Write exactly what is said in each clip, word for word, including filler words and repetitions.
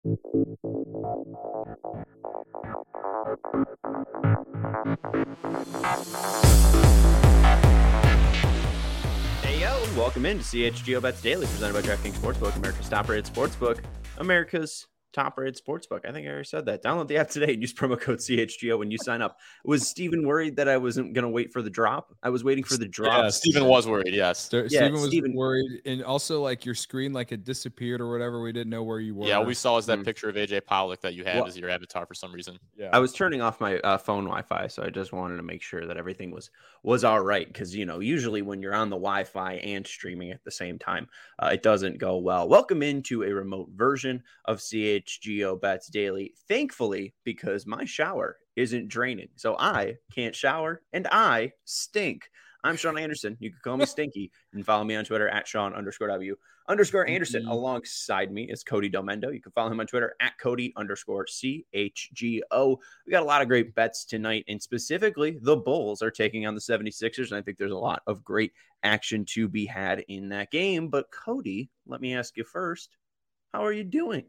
Hey, yo, and welcome into C H G O Bets Daily, presented by DraftKings Sportsbook, America's top-rated sportsbook, America's top-rated sportsbook. I think I already said that. Download the app today and use promo code C H G O when you sign up. Was Steven worried that I wasn't going to wait for the drop? I was waiting for the drop. Yeah, Steven was worried, yes. St- Yeah, Steven was Steven- worried. And also, like, your screen, like, it disappeared or whatever. We didn't know where you were. Yeah, all we saw was that Mhm. picture of A J Pollock that you had Well- as your avatar for some reason. Yeah. I was turning off my uh, phone Wi-Fi, so I just wanted to make sure that everything was was all right. Because you know, usually when you're on the Wi-Fi and streaming at the same time, uh, it doesn't go well. Welcome into a remote version of C H G O Bets Daily. Thankfully, because my shower isn't draining, so I can't shower and I stink. I'm Sean Anderson. You can call me Stinky and follow me on Twitter at Sean underscore W underscore Anderson. Mhm. Alongside me is Cody Delmendo. You can follow him on Twitter at Cody underscore C H G O. We got a lot of great bets tonight, and specifically the Bulls are taking on the seventy-sixers, and I think there's a lot of great action to be had in that game. But Cody, let me ask you first, how are you doing?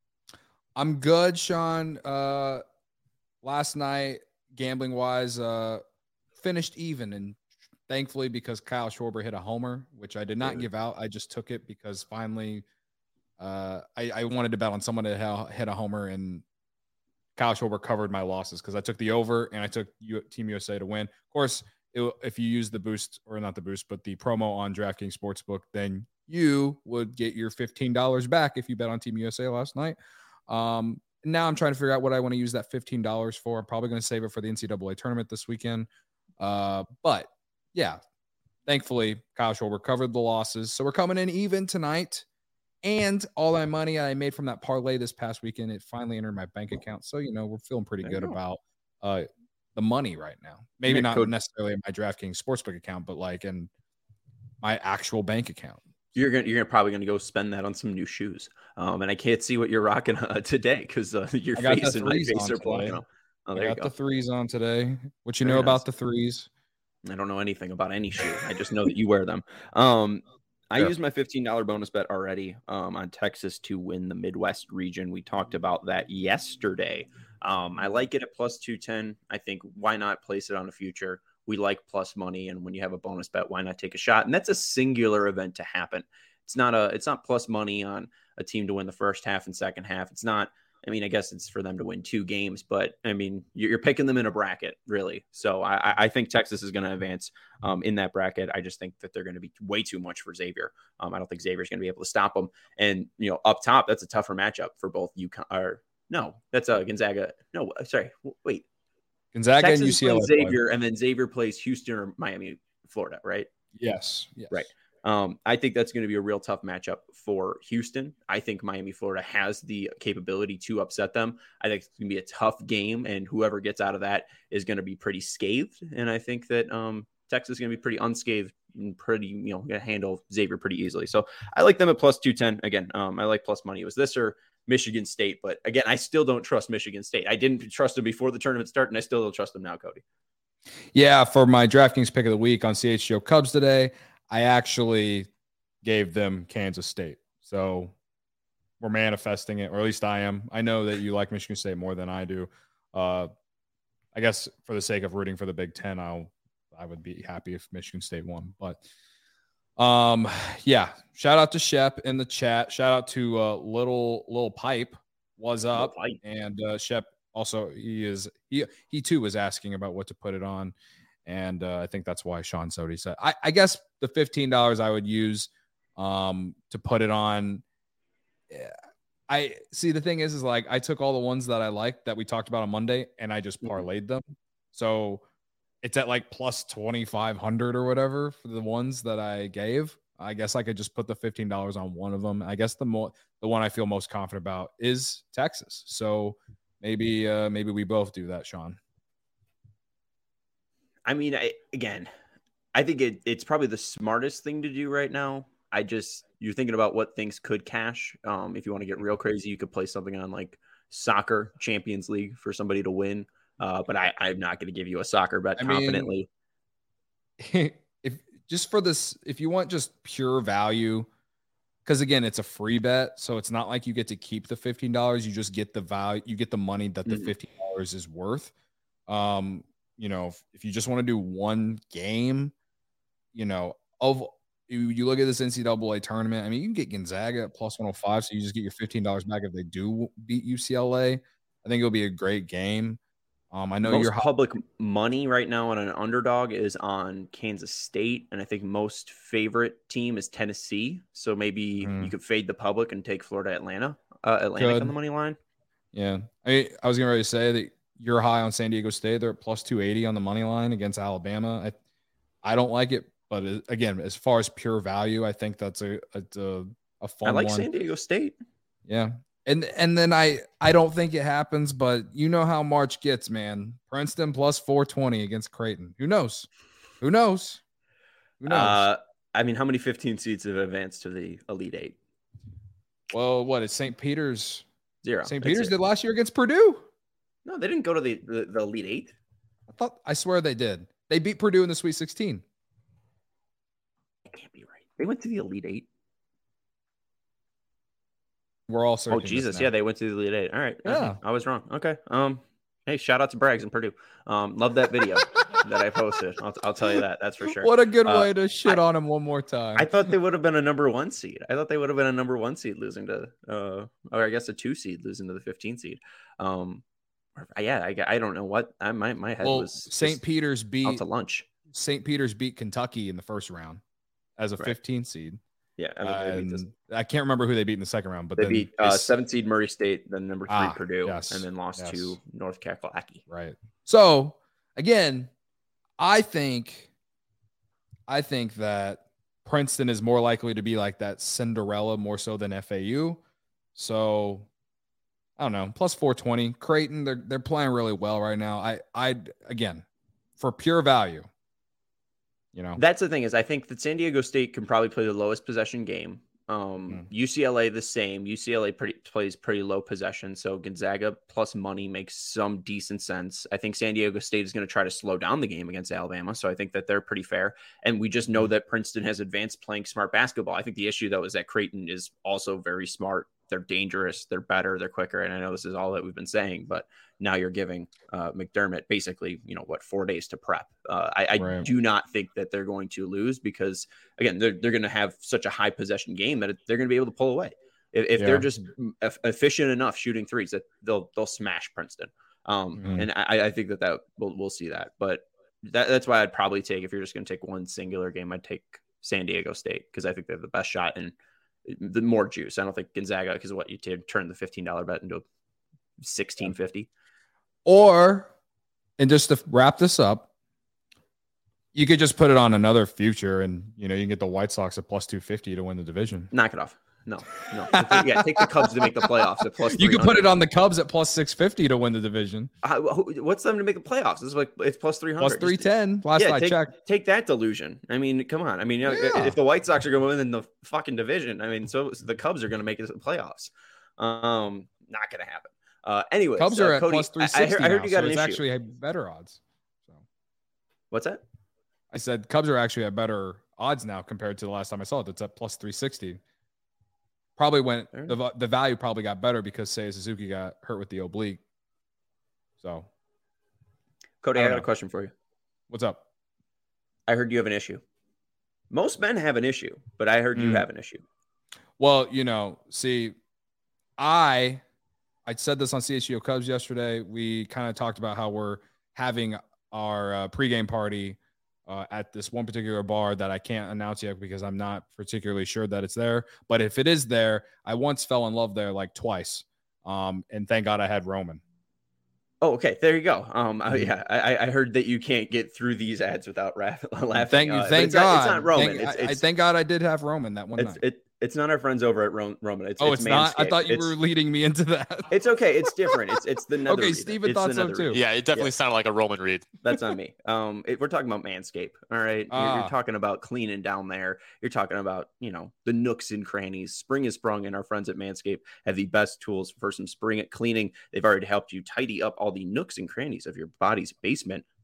I'm good, Sean. Uh, last night, gambling wise, uh, finished even, and thankfully because Kyle Schwarber hit a homer, which I did not Good. give out. I just took it because finally, uh, I, I wanted to bet on someone to ha- hit a homer, and Kyle Schwarber covered my losses because I took the over and I took U- Team U S A to win. Of course, it, if you use the boost or not the boost, but the promo on DraftKings Sportsbook, then you would get your fifteen dollars back if you bet on Team U S A last night. Um, now I'm trying to figure out what I want to use that fifteen dollars for. I'm probably going to save it for the N C double A tournament this weekend. Uh, but yeah, thankfully Kyle Schwarber covered the losses. So we're coming in even tonight. And all that money I made from that parlay this past weekend, it finally entered my bank account. So, you know, we're feeling pretty There good you go. about uh, the money right now. Maybe Yeah, not Cody- necessarily in my DraftKings Sportsbook account, but like in my actual bank account. You're gonna you're probably gonna go spend that on some new shoes. Um, and I can't see what you're rocking uh, today because uh, your I got face the and my threes face on are blocking today. them. Oh, I there you got go. the threes on today. What you Very know nice. about the threes? I don't know anything about any shoe. I just know that you wear them. Um, I Sure. used my fifteen dollars bonus bet already um, on Texas to win the Midwest region. We talked about that yesterday. Um, I like it at plus two ten. I think why not place it on a future? We like plus money, and when you have a bonus bet, why not take a shot? And that's a singular event to happen. It's not a it's not plus money on a team to win the first half and second half. It's not. I mean, I guess it's for them to win two games, but I mean, you're, you're picking them in a bracket, really. So I, I- I think Texas is going to advance um, in that bracket. I just think that they're going to be way too much for Xavier. Um, I don't think Xavier's going to be able to stop them. And you know, up top, that's a tougher matchup for both UConn. Or no, that's a Gonzaga. No, sorry, w- wait. Gonzaga Texas and U is C L A. playing play. Xavier, and then Xavier plays Houston or Miami, Florida, right? Yes. Yes. Right. Um, I think that's going to be a real tough matchup for Houston. I think Miami, Florida has the capability to upset them. I think it's going to be a tough game, and whoever gets out of that is going to be pretty scathed. And I think that um, Texas is going to be pretty unscathed and pretty, you know, going to handle Xavier pretty easily. So I like them at plus two ten. Again, um, I like plus money. It was this or Michigan State. But again, I still don't trust Michigan State. I didn't trust them before the tournament started, and I still don't trust them now, Cody. Yeah, for my DraftKings pick of the week on C H G O Cubs today, I actually gave them Kansas State. So we're manifesting it, or at least I am. I know that you like Michigan State more than I do. Uh, I guess for the sake of rooting for the Big Ten, I'll I would be happy if Michigan State won. But um, yeah, shout out to Shep in the chat. Shout out to uh, little little pipe was Little up, Pipe. and uh, Shep also he is he he too was asking about what to put it on. And uh, I think that's why Sean Sodi said, I, I guess the fifteen dollars I would use um, to put it on. Yeah, I see. The thing is, is like I took all the ones that I liked that we talked about on Monday and I just Mhm. parlayed them. So it's at like plus twenty-five hundred or whatever for the ones that I gave. I guess I could just put the fifteen dollars on one of them. I guess the more, the one I feel most confident about is Texas. So maybe, uh, maybe we both do that, Sean. I mean, I, again, I think it, it's probably the smartest thing to do right now. I just, you're thinking about what things could cash. Um, if you want to get real crazy, you could play something on like soccer Champions League for somebody to win. Uh, but I, I'm not going to give you a soccer bet I mean, confidently. if just for this, if you want just pure value, because again, it's a free bet, so it's not like you get to keep the fifteen dollars. You just get the value, you get the money that the Mhm. fifteen dollars is worth. Um, you know, if, if you just want to do one game, you know, of you, you look at this N C double A tournament. I mean, you can get Gonzaga at plus one hundred five, so you just get your fifteen dollars back if they do beat U C L A. I think it'll be a great game. Um, I know most you're public money right now on an underdog is on Kansas State, and I think most favorite team is Tennessee. So maybe Mhm. you could fade the public and take Florida Atlanta, uh, Atlantic Could. on the money line. Yeah, I I was getting ready to say that you're high on San Diego State. They're at plus two eighty on the money line against Alabama. I I don't like it, but it, again, as far as pure value, I think that's a a, a fun I like one. San Diego State. Yeah. And and then I I don't think it happens, but you know how March gets, man. Princeton plus four twenty against Creighton. Who knows? Who knows? Who knows? Uh, I mean, how many fifteen seeds have advanced to the Elite Eight? Well, what is Saint Peter's? Zero. Saint That's Peter's it. did last year against Purdue. No, they didn't go to the, the, the Elite Eight. I thought I swear they did. They beat Purdue in the Sweet sixteen. That can't be right. They went to the Elite Eight. We're all Oh searching. this Jesus, now. yeah, they went to the Elite Eight. All right, okay. Yeah. I was wrong. Okay. Um, hey, shout out to Braggs and Purdue. Um, love that video that I posted. I'll, I'll tell you that. That's for sure. What a good Uh, way to shit I- on him one more time. I thought they would have been a number one seed. I thought they would have been a number one seed losing to, uh, or I guess a two seed losing to the fifteen seed. Um, or- yeah, I, I don't know what I my my head well, was. Saint just Peter's out beat to lunch. Saint Peter's beat Kentucky in the first round as a Right. fifteen seed. Yeah, I, mean, they, beat this- And I can't remember who they beat in the second round, but they then beat uh, they- seven seed Murray State, then number three Ah, Purdue, yes, and then lost yes. to North Kakalaki. right. So again, I think I think that Princeton is more likely to be like that Cinderella more so than F A U. So I don't know, plus four twenty. Creighton, they're they're playing really well right now. I I again for pure value, you know. That's the thing is I think that San Diego State can probably play the lowest possession game. Um, Mm. U C L A the same. U C L A pretty plays pretty low possession, so Gonzaga plus money makes some decent sense. I think San Diego State is going to try to slow down the game against Alabama, so I think that they're pretty fair. And we just know that Princeton has advanced playing smart basketball. I think the issue though is that Creighton is also very smart. They're dangerous. They're better. They're quicker. And I know this is all that we've been saying, but now you're giving uh, McDermott basically, you know, what, four days to prep. Uh, I, I Right. do not think that they're going to lose because, again, they're, they're going to have such a high possession game that they're going to be able to pull away. If, if Yeah. they're just e- efficient enough shooting threes, that they'll they'll smash Princeton. Um, Mhm. And I, I think that that we'll, we'll see that. But that, that's why I'd probably take, if you're just going to take one singular game, I'd take San Diego State because I think they have the best shot and the more juice. I don't think Gonzaga, because what you did turn the fifteen dollar bet into sixteen fifty. Or, and just to wrap this up, you could just put it on another future, and you know you can get the White Sox at plus two fifty to win the division. Knock it off. No, no. Yeah, take the Cubs to make the playoffs at plus. You could put three hundred. it on the Cubs at plus six fifty to win the division. Uh, who- what's them to make the playoffs? This is like it's plus three hundred. Plus three ten. Last Yeah, I take, checked. take that delusion. I mean, come on. I mean, you know, Yeah. if the White Sox are going to win in the fucking division, I mean, so, so the Cubs are going to make it to the playoffs. Um, not going to happen. Uh, anyways, Cubs uh, are at Cody, plus three I, I sixty. heard, I heard now, you got so an it's issue. actually have better odds. So What's that? I said Cubs are actually at better odds now compared to the last time I saw it. It's at plus three sixty. Probably went Fair the, the value probably got better because Seiya Suzuki got hurt with the oblique. So Cody, I I, don't got a know. question for you. what's up? I heard you have an issue. Most men have an issue, but I heard you Mm. have an issue. Well, you know, see, I I said this on C H G O Cubs yesterday. We kind of talked about how we're having our uh, pregame party uh, at this one particular bar that I can't announce yet because I'm not particularly sure that it's there. But if it is there, I once fell in love there like twice. Um, and thank God I had Roman. Oh, okay. There you go. Um, I- Mhm. yeah, I, I heard that you can't get through these ads without rap- laughing. Thank you. Uh, but Thank it's God. Not, it's not Roman. Thank, it's, I, I it's, thank God I did have Roman that one it's, night. it, it's not our friends over at Ro- Roman. It's, oh, it's, it's, not. I Manscaped. thought you It's- were leading me into that. It's okay. It's different. It's it's the nether Okay, reader. Steven It's thought the so nether too. reader. Yeah, it definitely Yeah. sounded like a Roman read. That's on me. Um, it, we're talking about Manscaped. All right, you're, Ah. you're talking about cleaning down there. You're talking about you know the nooks and crannies. Spring is sprung, and our friends at Manscaped have the best tools for some spring cleaning. They've already helped you tidy up all the nooks and crannies of your body's basement.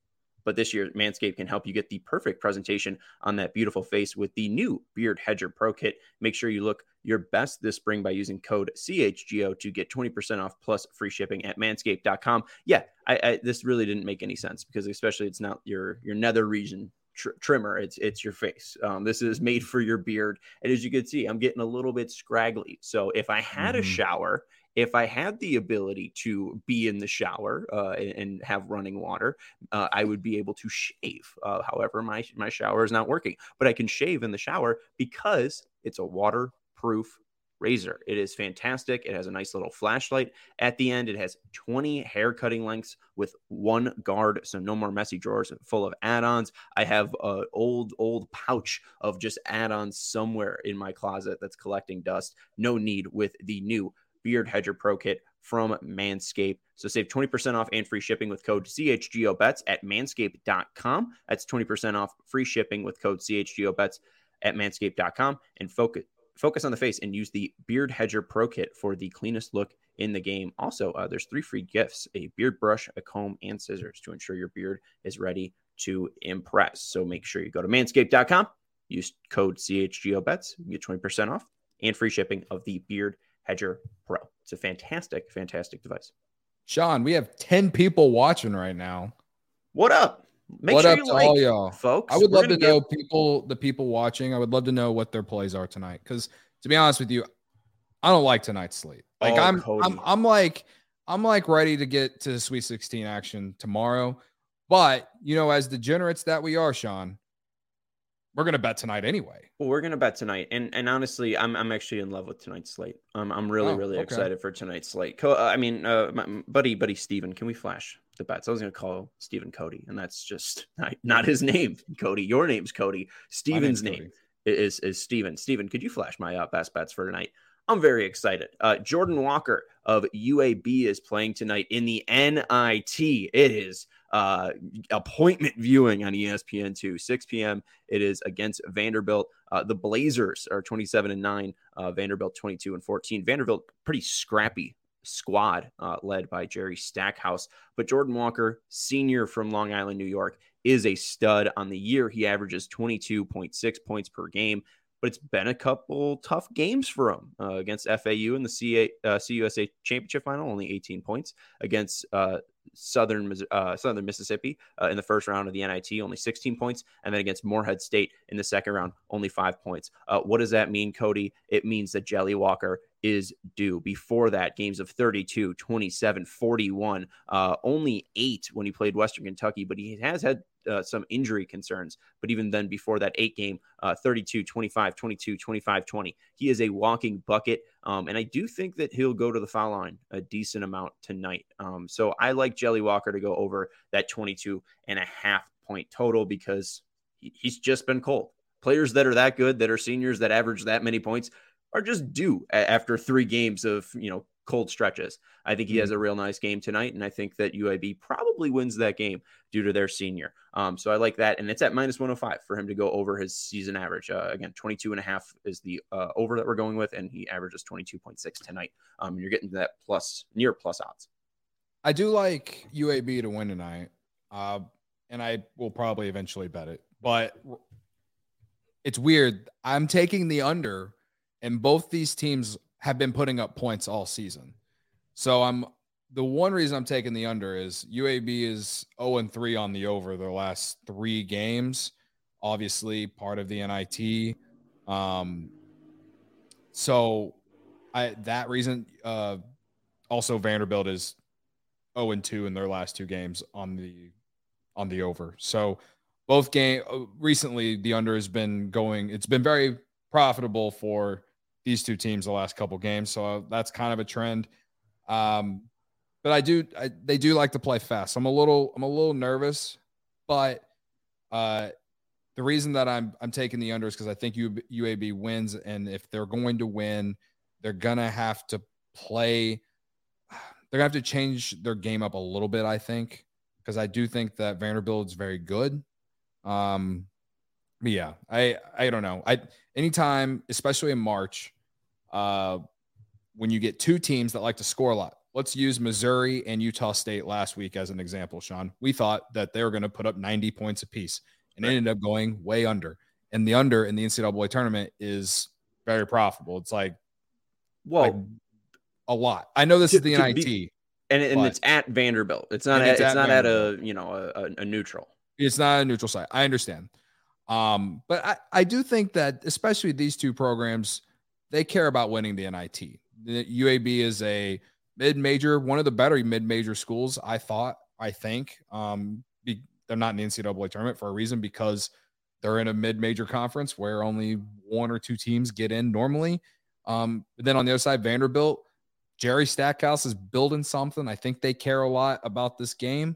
But this year, Manscaped can help you get the perfect presentation on that beautiful face with the new Beard Hedger Pro Kit. Make sure you look your best this spring by using code C H G O to get twenty percent off plus free shipping at manscaped dot com. Yeah, I, I, this really didn't make any sense because especially it's not your, your nether region tr- trimmer. It's it's your face. Um, this is made for your beard. And as you can see, I'm getting a little bit scraggly. So if I had mm-hmm. a shower, if I had the ability to be in the shower uh, and, and have running water, uh, I would be able to shave. Uh, however, my, my shower is not working, but I can shave in the shower because it's a waterproof razor. It is fantastic. It has a nice little flashlight at the end. It has twenty hair cutting lengths with one guard, so no more messy drawers full of add-ons. I have an old, old pouch of just add-ons somewhere in my closet that's collecting dust. No need with the new Beard Hedger Pro Kit from Manscaped. So save twenty percent off and free shipping with code C H G O bets at manscaped dot com. That's twenty percent off free shipping with code C H G O bets at manscaped dot com. And focus focus on the face and use the Beard Hedger Pro Kit for the cleanest look in the game. Also, uh, there's three free gifts: a beard brush, a comb, and scissors to ensure your beard is ready to impress. So make sure you go to manscaped dot com, use code C H G O bets, you get twenty percent off and free shipping of the Beard Hedger Pro. It's a fantastic, fantastic device. Sean, we have ten people watching right now. What up? Make what sure up you to like, all y'all, folks. I would We're love to give... know people, the people watching. I would love to know what their plays are tonight. Because to be honest with you, I don't like tonight's slate. Like oh, I'm, Cody. I'm, I'm like, I'm like ready to get to the Sweet sixteen action tomorrow. But you know, as degenerates that we are, Sean, we're gonna bet tonight anyway. Well, we're gonna bet tonight, and and honestly, I'm I'm actually in love with tonight's slate. Um, I'm really oh, really okay. excited for tonight's slate. Co- I mean, uh, my buddy buddy Steven, can we flash the bets? I was gonna call Steven Cody, and that's just not, not his name. Cody, your name's Cody. Steven's name Cody. is is Steven. Steven, could you flash my uh, best bets for tonight? I'm very excited. Uh, Jordan Walker of U A B is playing tonight in the N I T. It is uh, appointment viewing on E S P N two, six p.m. It is against Vanderbilt. Uh, the Blazers are twenty-seven and nine. Uh, Vanderbilt twenty-two and fourteen. Vanderbilt pretty scrappy squad uh, led by Jerry Stackhouse. But Jordan Walker, senior from Long Island, New York, is a stud. On the year, he averages twenty-two point six points per game. But it's been a couple tough games for him uh, against F A U in the C A, uh, C U S A championship final, only eighteen points. Against uh, Southern uh, Southern Mississippi uh, in the first round of the N I T, only sixteen points. And then against Morehead State in the second round, only five points. Uh, what does that mean, Cody? It means that Jelly Walker is due. Before that, games of thirty-two, twenty-seven, forty-one, uh, only eight when he played Western Kentucky, but he has had Uh, some injury concerns. But even then, before that eight game, uh, thirty-two, twenty-five, twenty-two, twenty-five, twenty. He is a walking bucket. Um, and I do think that he'll go to the foul line a decent amount tonight. Um, so I like Jelly Walker to go over that twenty-two and a half point total because he, he's just been cold. Players that are that good, that are seniors, that average that many points are just due a- after three games of, you know, cold stretches. I think he has a real nice game tonight, and I think that U A B probably wins that game due to their senior. Um, so I like that, and it's at minus one oh five for him to go over his season average. Uh, again, twenty-two and a half is the uh, over that we're going with, and he averages twenty-two point six tonight. Um, and you're getting to that plus, near plus odds. I do like U A B to win tonight, uh, and I will probably eventually bet it. But it's weird. I'm taking the under, and both these teams have been putting up points all season. So I'm the one reason I'm taking the under is U A B is oh and three on the over their last three games, obviously part of the N I T. Um, so I that reason uh, also Vanderbilt is oh and two in their last two games on the on the over. So both game recently the under has been going, it's been very profitable for these two teams the last couple games. So that's kind of a trend. Um, but I do, I, they do like to play fast. I'm a little, I'm a little nervous, but uh, the reason that I'm, I'm taking the under is because I think U, U A B wins. And if they're going to win, they're going to have to play. They're going to have to change their game up a little bit, I think, because I do think that Vanderbilt is very good. Um, but yeah, I, I don't know. I, anytime, especially in March, uh, when you get two teams that like to score a lot, let's use Missouri and Utah State last week as an example, Sean. We thought that they were going to put up ninety points apiece, and right. It ended up going way under. And the under in the N C double A tournament is very profitable. It's like, well, like a lot. I know this to, is the N I T. Be, and and it's at Vanderbilt. It's not. At, it's, it's at not at a you know a, a neutral. It's not a neutral site. I understand. Um, but I, I do think that especially these two programs, they care about winning the N I T. The U A B is a mid-major, one of the better mid-major schools, I thought, I think. Um, be, they're not in the N C double A tournament for a reason because they're in a mid-major conference where only one or two teams get in normally. Um, but then on the other side, Vanderbilt, Jerry Stackhouse is building something. I think they care a lot about this game.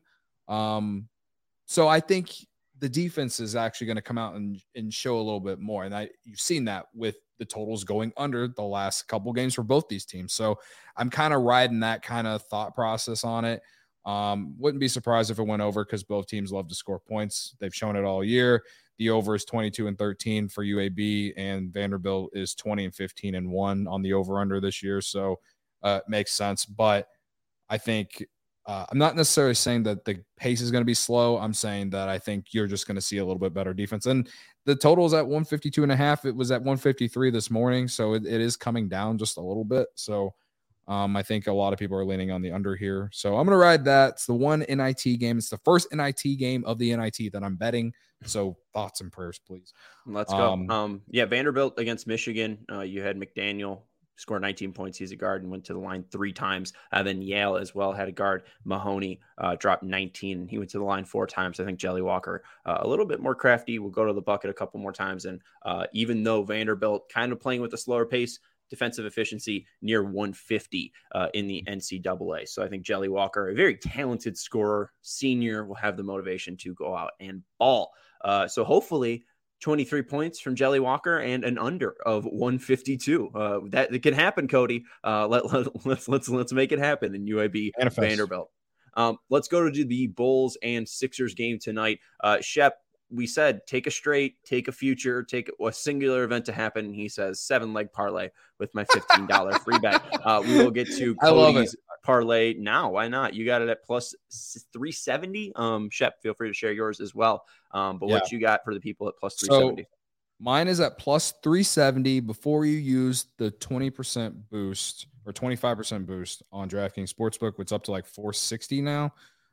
Um, so I think the defense is actually going to come out and, and show a little bit more. And I, you've seen that with the totals going under the last couple games for both these teams. So I'm kind of riding that kind of thought process on it. Um, wouldn't be surprised if it went over because both teams love to score points. They've shown it all year. The over is twenty-two and thirteen for U A B, and Vanderbilt is twenty and fifteen and one on the over under this year. So uh, it makes sense. But I think uh, I'm not necessarily saying that the pace is going to be slow. I'm saying that I think you're just going to see a little bit better defense. And the total is at one fifty-two and a half. It was at one fifty-three this morning. So it, it is coming down just a little bit. So Um, I think a lot of people are leaning on the under here. So I'm going to ride that. It's the one N I T game. It's the first N I T game of the N I T that I'm betting. So thoughts and prayers, please. Let's go. Um, um yeah, Vanderbilt against Michigan. Uh, you had McDaniel score nineteen points. He's a guard and went to the line three times. Uh, then Yale as well had a guard. Mahoney uh, dropped nineteen, and he went to the line four times. I think Jelly Walker uh, a little bit more crafty. Will go to the bucket a couple more times. And uh, even though Vanderbilt kind of playing with a slower pace, defensive efficiency near one fifty uh, in the N C double A. So I think Jelly Walker, a very talented scorer, senior, will have the motivation to go out and ball. Uh, so hopefully twenty-three points from Jelly Walker and an under of one fifty-two. Uh, that it can happen, Cody. Uh, let, let, let's let's let's make it happen in U A B Manifest. Vanderbilt. Um, let's go to the Bulls and Sixers game tonight. Uh, Shep, we said take a straight, take a future, take a singular event to happen. He says seven leg parlay with my fifteen dollars free bet. Uh, we will get to Cody's parlay now. Why not? You got it at plus three seventy. Um, Shep, feel free to share yours as well. Um, but yeah. What you got for the people at plus three seventy? So mine is at plus three seventy before you use the twenty percent boost or twenty-five percent boost on DraftKings Sportsbook, which is up to like four sixty now.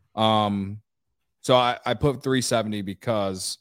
Um, So I, I put three seventy because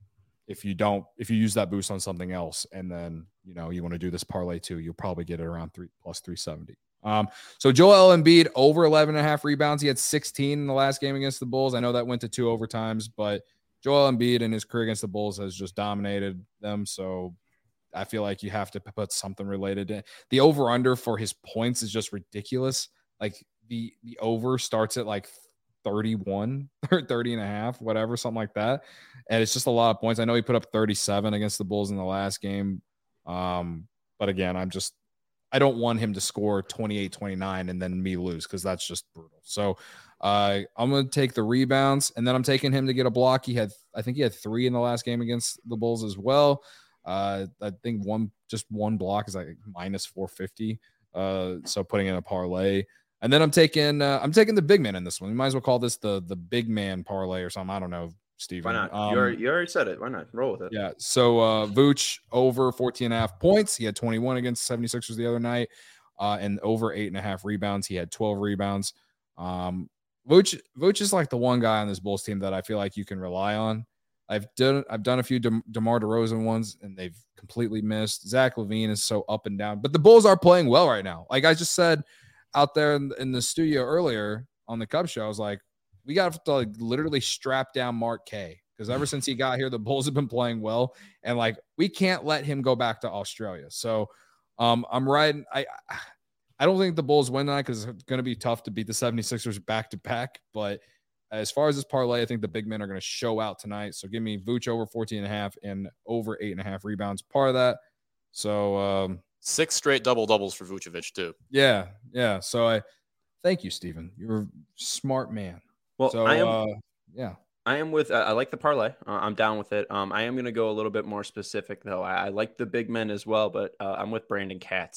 if you don't, if you use that boost on something else and then, you know, you want to do this parlay too, you'll probably get it around three plus three seventy. Um, so Joel Embiid over eleven and a half rebounds. He had sixteen in the last game against the Bulls. I know that went to two overtimes, but Joel Embiid in his career against the Bulls has just dominated them. So I feel like you have to put something related to it. The over under for his points is just ridiculous. Like the, the over starts at like thirty-one or thirty and a half, whatever, something like that. And it's just a lot of points. I know he put up thirty-seven against the Bulls in the last game. Um, but again, I'm just, I don't want him to score twenty-eight, twenty-nine and then me lose because that's just brutal. So uh, I'm going to take the rebounds and then I'm taking him to get a block. He had, I think he had three in the last game against the Bulls as well. Uh, I think one, just one block is like minus four fifty. Uh, so putting in a parlay. And then I'm taking uh, I'm taking the big man in this one. We might as well call this the the big man parlay or something. I don't know, Steven. Why not? Um, you, already, you already said it. Why not? Roll with it. Yeah. So uh, Vooch over fourteen and a half points. He had twenty-one against seventy-sixers the other night. Uh, and over eight and a half rebounds. He had twelve rebounds. Um, Vooch, Vooch is like the one guy on this Bulls team that I feel like you can rely on. I've done I've done a few De- DeMar DeRozan ones, and they've completely missed. Zach LaVine is so up and down. But the Bulls are playing well right now. Like I just said out there in, in the studio earlier on the Cub show, I was like, we got to like literally strap down Mark K because ever since he got here, the Bulls have been playing well, and like we can't let him go back to Australia. So um, I'm riding. I I don't think the Bulls win tonight because it's going to be tough to beat the seventy-sixers back to back. But as far as this parlay, I think the big men are going to show out tonight. So give me Vooch over fourteen and a half and over eight and a half rebounds. Part of that. So um, six straight double doubles for Vucevic too. Yeah, yeah. So I thank you, Steven. You're a smart man. Well, so I am, uh, yeah, I am with. Uh, I like the parlay. Uh, I'm down with it. Um, I am going to go a little bit more specific though. I, I like the big men as well, but uh, I'm with Brandon Katz.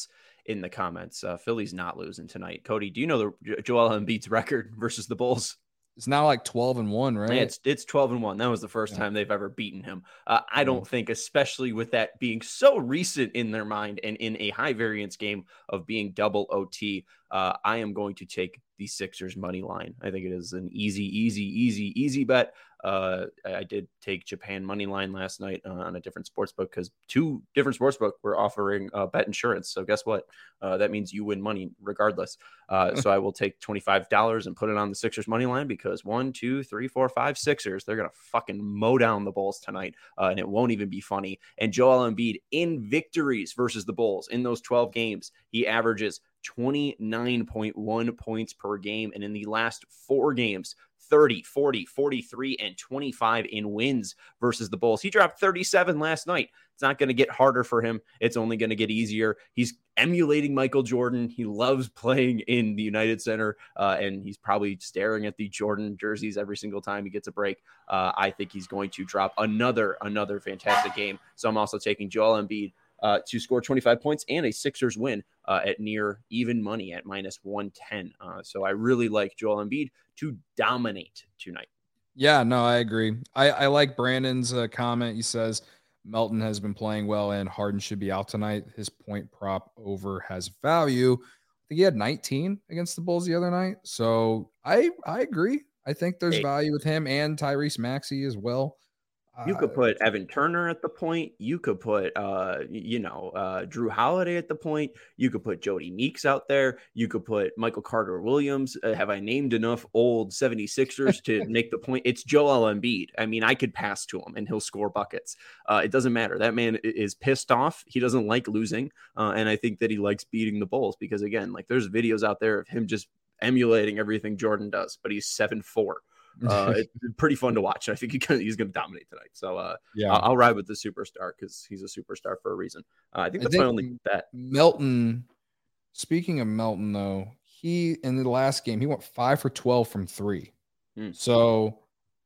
in the comments. Uh, Philly's not losing tonight. Cody, do you know the Joel Embiid's record versus the Bulls? It's now like twelve and one, right? It's it's twelve and one. That was the first yeah. time they've ever beaten him. Uh, I don't yeah. think, especially with that being so recent in their mind and in a high variance game of being double O T, uh, I am going to take the Sixers money line. I think it is an easy, easy, easy, easy bet. Uh, I did take Japan money line last night uh, on a different sportsbook because two different sportsbook were offering uh, bet insurance. So guess what? Uh, that means you win money regardless. Uh, so I will take twenty-five dollars and put it on the Sixers money line because one, two, three, four, five Sixers, they're going to fucking mow down the Bulls tonight. Uh, and it won't even be funny. And Joel Embiid in victories versus the Bulls in those twelve games, he averages twenty-nine point one points per game. And in the last four games, thirty, forty, forty-three, and twenty-five in wins versus the Bulls. He dropped thirty-seven last night. It's not going to get harder for him. It's only going to get easier. He's emulating Michael Jordan. He loves playing in the United Center, uh, and he's probably staring at the Jordan jerseys every single time he gets a break. Uh, I think he's going to drop another, another fantastic game. So I'm also taking Joel Embiid Uh, to score twenty-five points and a Sixers win uh, at near even money at minus one ten. Uh, so I really like Joel Embiid to dominate tonight. Yeah, no, I agree. I, I like Brandon's uh, comment. He says Melton has been playing well and Harden should be out tonight. His point prop over has value. I think he had nineteen against the Bulls the other night. So I I agree. I think there's hey. value with him and Tyrese Maxey as well. You could put Evan Turner at the point. You could put, uh, you know, uh, Drew Holiday at the point. You could put Jody Meeks out there. You could put Michael Carter-Williams. Uh, have I named enough old seventy-sixers to make the point? It's Joel Embiid. I mean, I could pass to him and he'll score buckets. Uh, it doesn't matter. That man is pissed off. He doesn't like losing. Uh, and I think that he likes beating the Bulls because, again, like there's videos out there of him just emulating everything Jordan does, but he's seven four. Uh, it's pretty fun to watch. I think he can, he's going to dominate tonight. So uh, yeah, I'll, I'll ride with the superstar because he's a superstar for a reason. Uh, I think that's I think my only bet. Melton. Speaking of Melton, though, he in the last game he went five for twelve from three. Hmm. So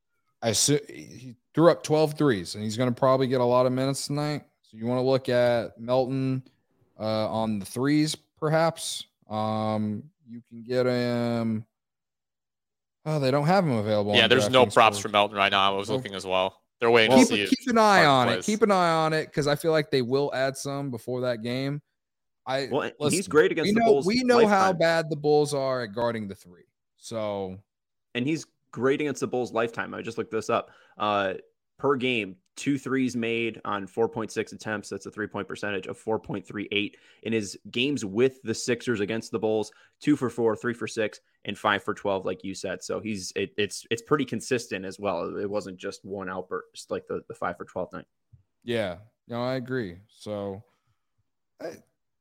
I assume he threw up twelve threes, and he's going to probably get a lot of minutes tonight. So you want to look at Melton uh, on the threes, perhaps. Um, you can get him. Oh, they don't have him available. Yeah, there's no props for Melton right now. I was well, looking as well. They're waiting keep, to see. Keep an eye on it. Keep an eye on it because I feel like they will add some before that game. I well, listen, he's great against we the know, Bulls. We know lifetime. how bad the Bulls are at guarding the three. So, and he's great against the Bulls lifetime. I just looked this up. Uh, per game, two threes made on four point six attempts. That's a three-point percentage of four point three eight. In his games with the Sixers against the Bulls, two for four, three for six, and five for twelve, like you said. So he's it, it's it's pretty consistent as well. It wasn't just one outburst like the, the five for twelve night. Yeah, no, I agree. So I,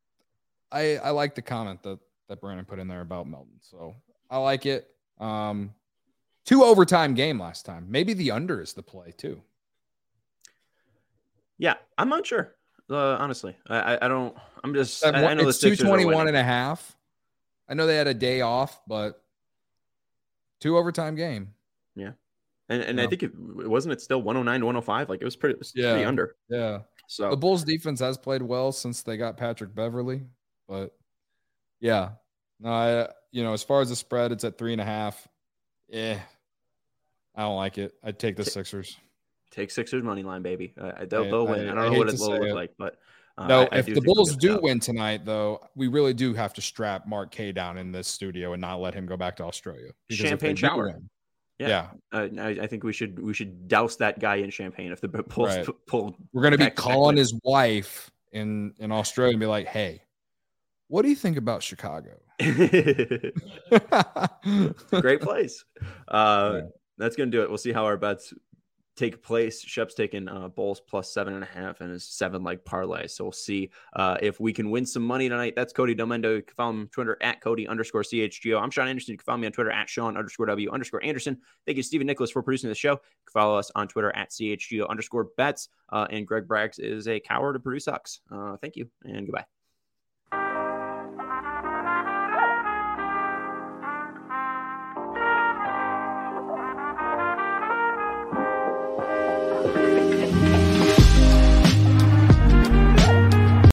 I I like the comment that that Brandon put in there about Melton. So I like it. Um, two overtime game last time. Maybe the under is the play too. Yeah, I'm not sure. Uh, honestly, I, I don't. I'm just. I, I know it's two twenty-one and a half. I know they had a day off, but two overtime game. Yeah, and and yeah. I think it wasn't it still one oh nine to one oh five. Like it was pretty. It was yeah. pretty under. Yeah. So the Bulls defense has played well since they got Patrick Beverly, but yeah, no, I you know as far as the spread, it's at three and a half. Yeah, I don't like it. I'd take the Sixers. Take Sixers money line, baby. Uh, they'll, they'll win. I, I don't I know what it will look it. like, but uh, no. I, if I do the Bulls do out. win tonight, though, we really do have to strap Mark K down in this studio and not let him go back to Australia. Champagne shower. Win, yeah, yeah. Uh, I, I think we should we should douse that guy in champagne if the Bulls right. pull. We're going to be calling his wife in in Australia and be like, "Hey, what do you think about Chicago?" Great place. Uh, yeah. That's going to do it. We'll see how our bets take place. Shep's taking uh, Bulls plus seven and a half and his seven leg parlay. So we'll see uh, if we can win some money tonight. That's Cody Delmendo. You can follow him on Twitter at Cody underscore C H G O. I'm Sean Anderson. You can follow me on Twitter at Sean underscore W underscore Anderson. Thank you, Stephen Nicholas, for producing the show. You can follow us on Twitter at C H G O underscore bets. Uh, and Greg Braggs is a coward to produce sucks. Uh, thank you and goodbye.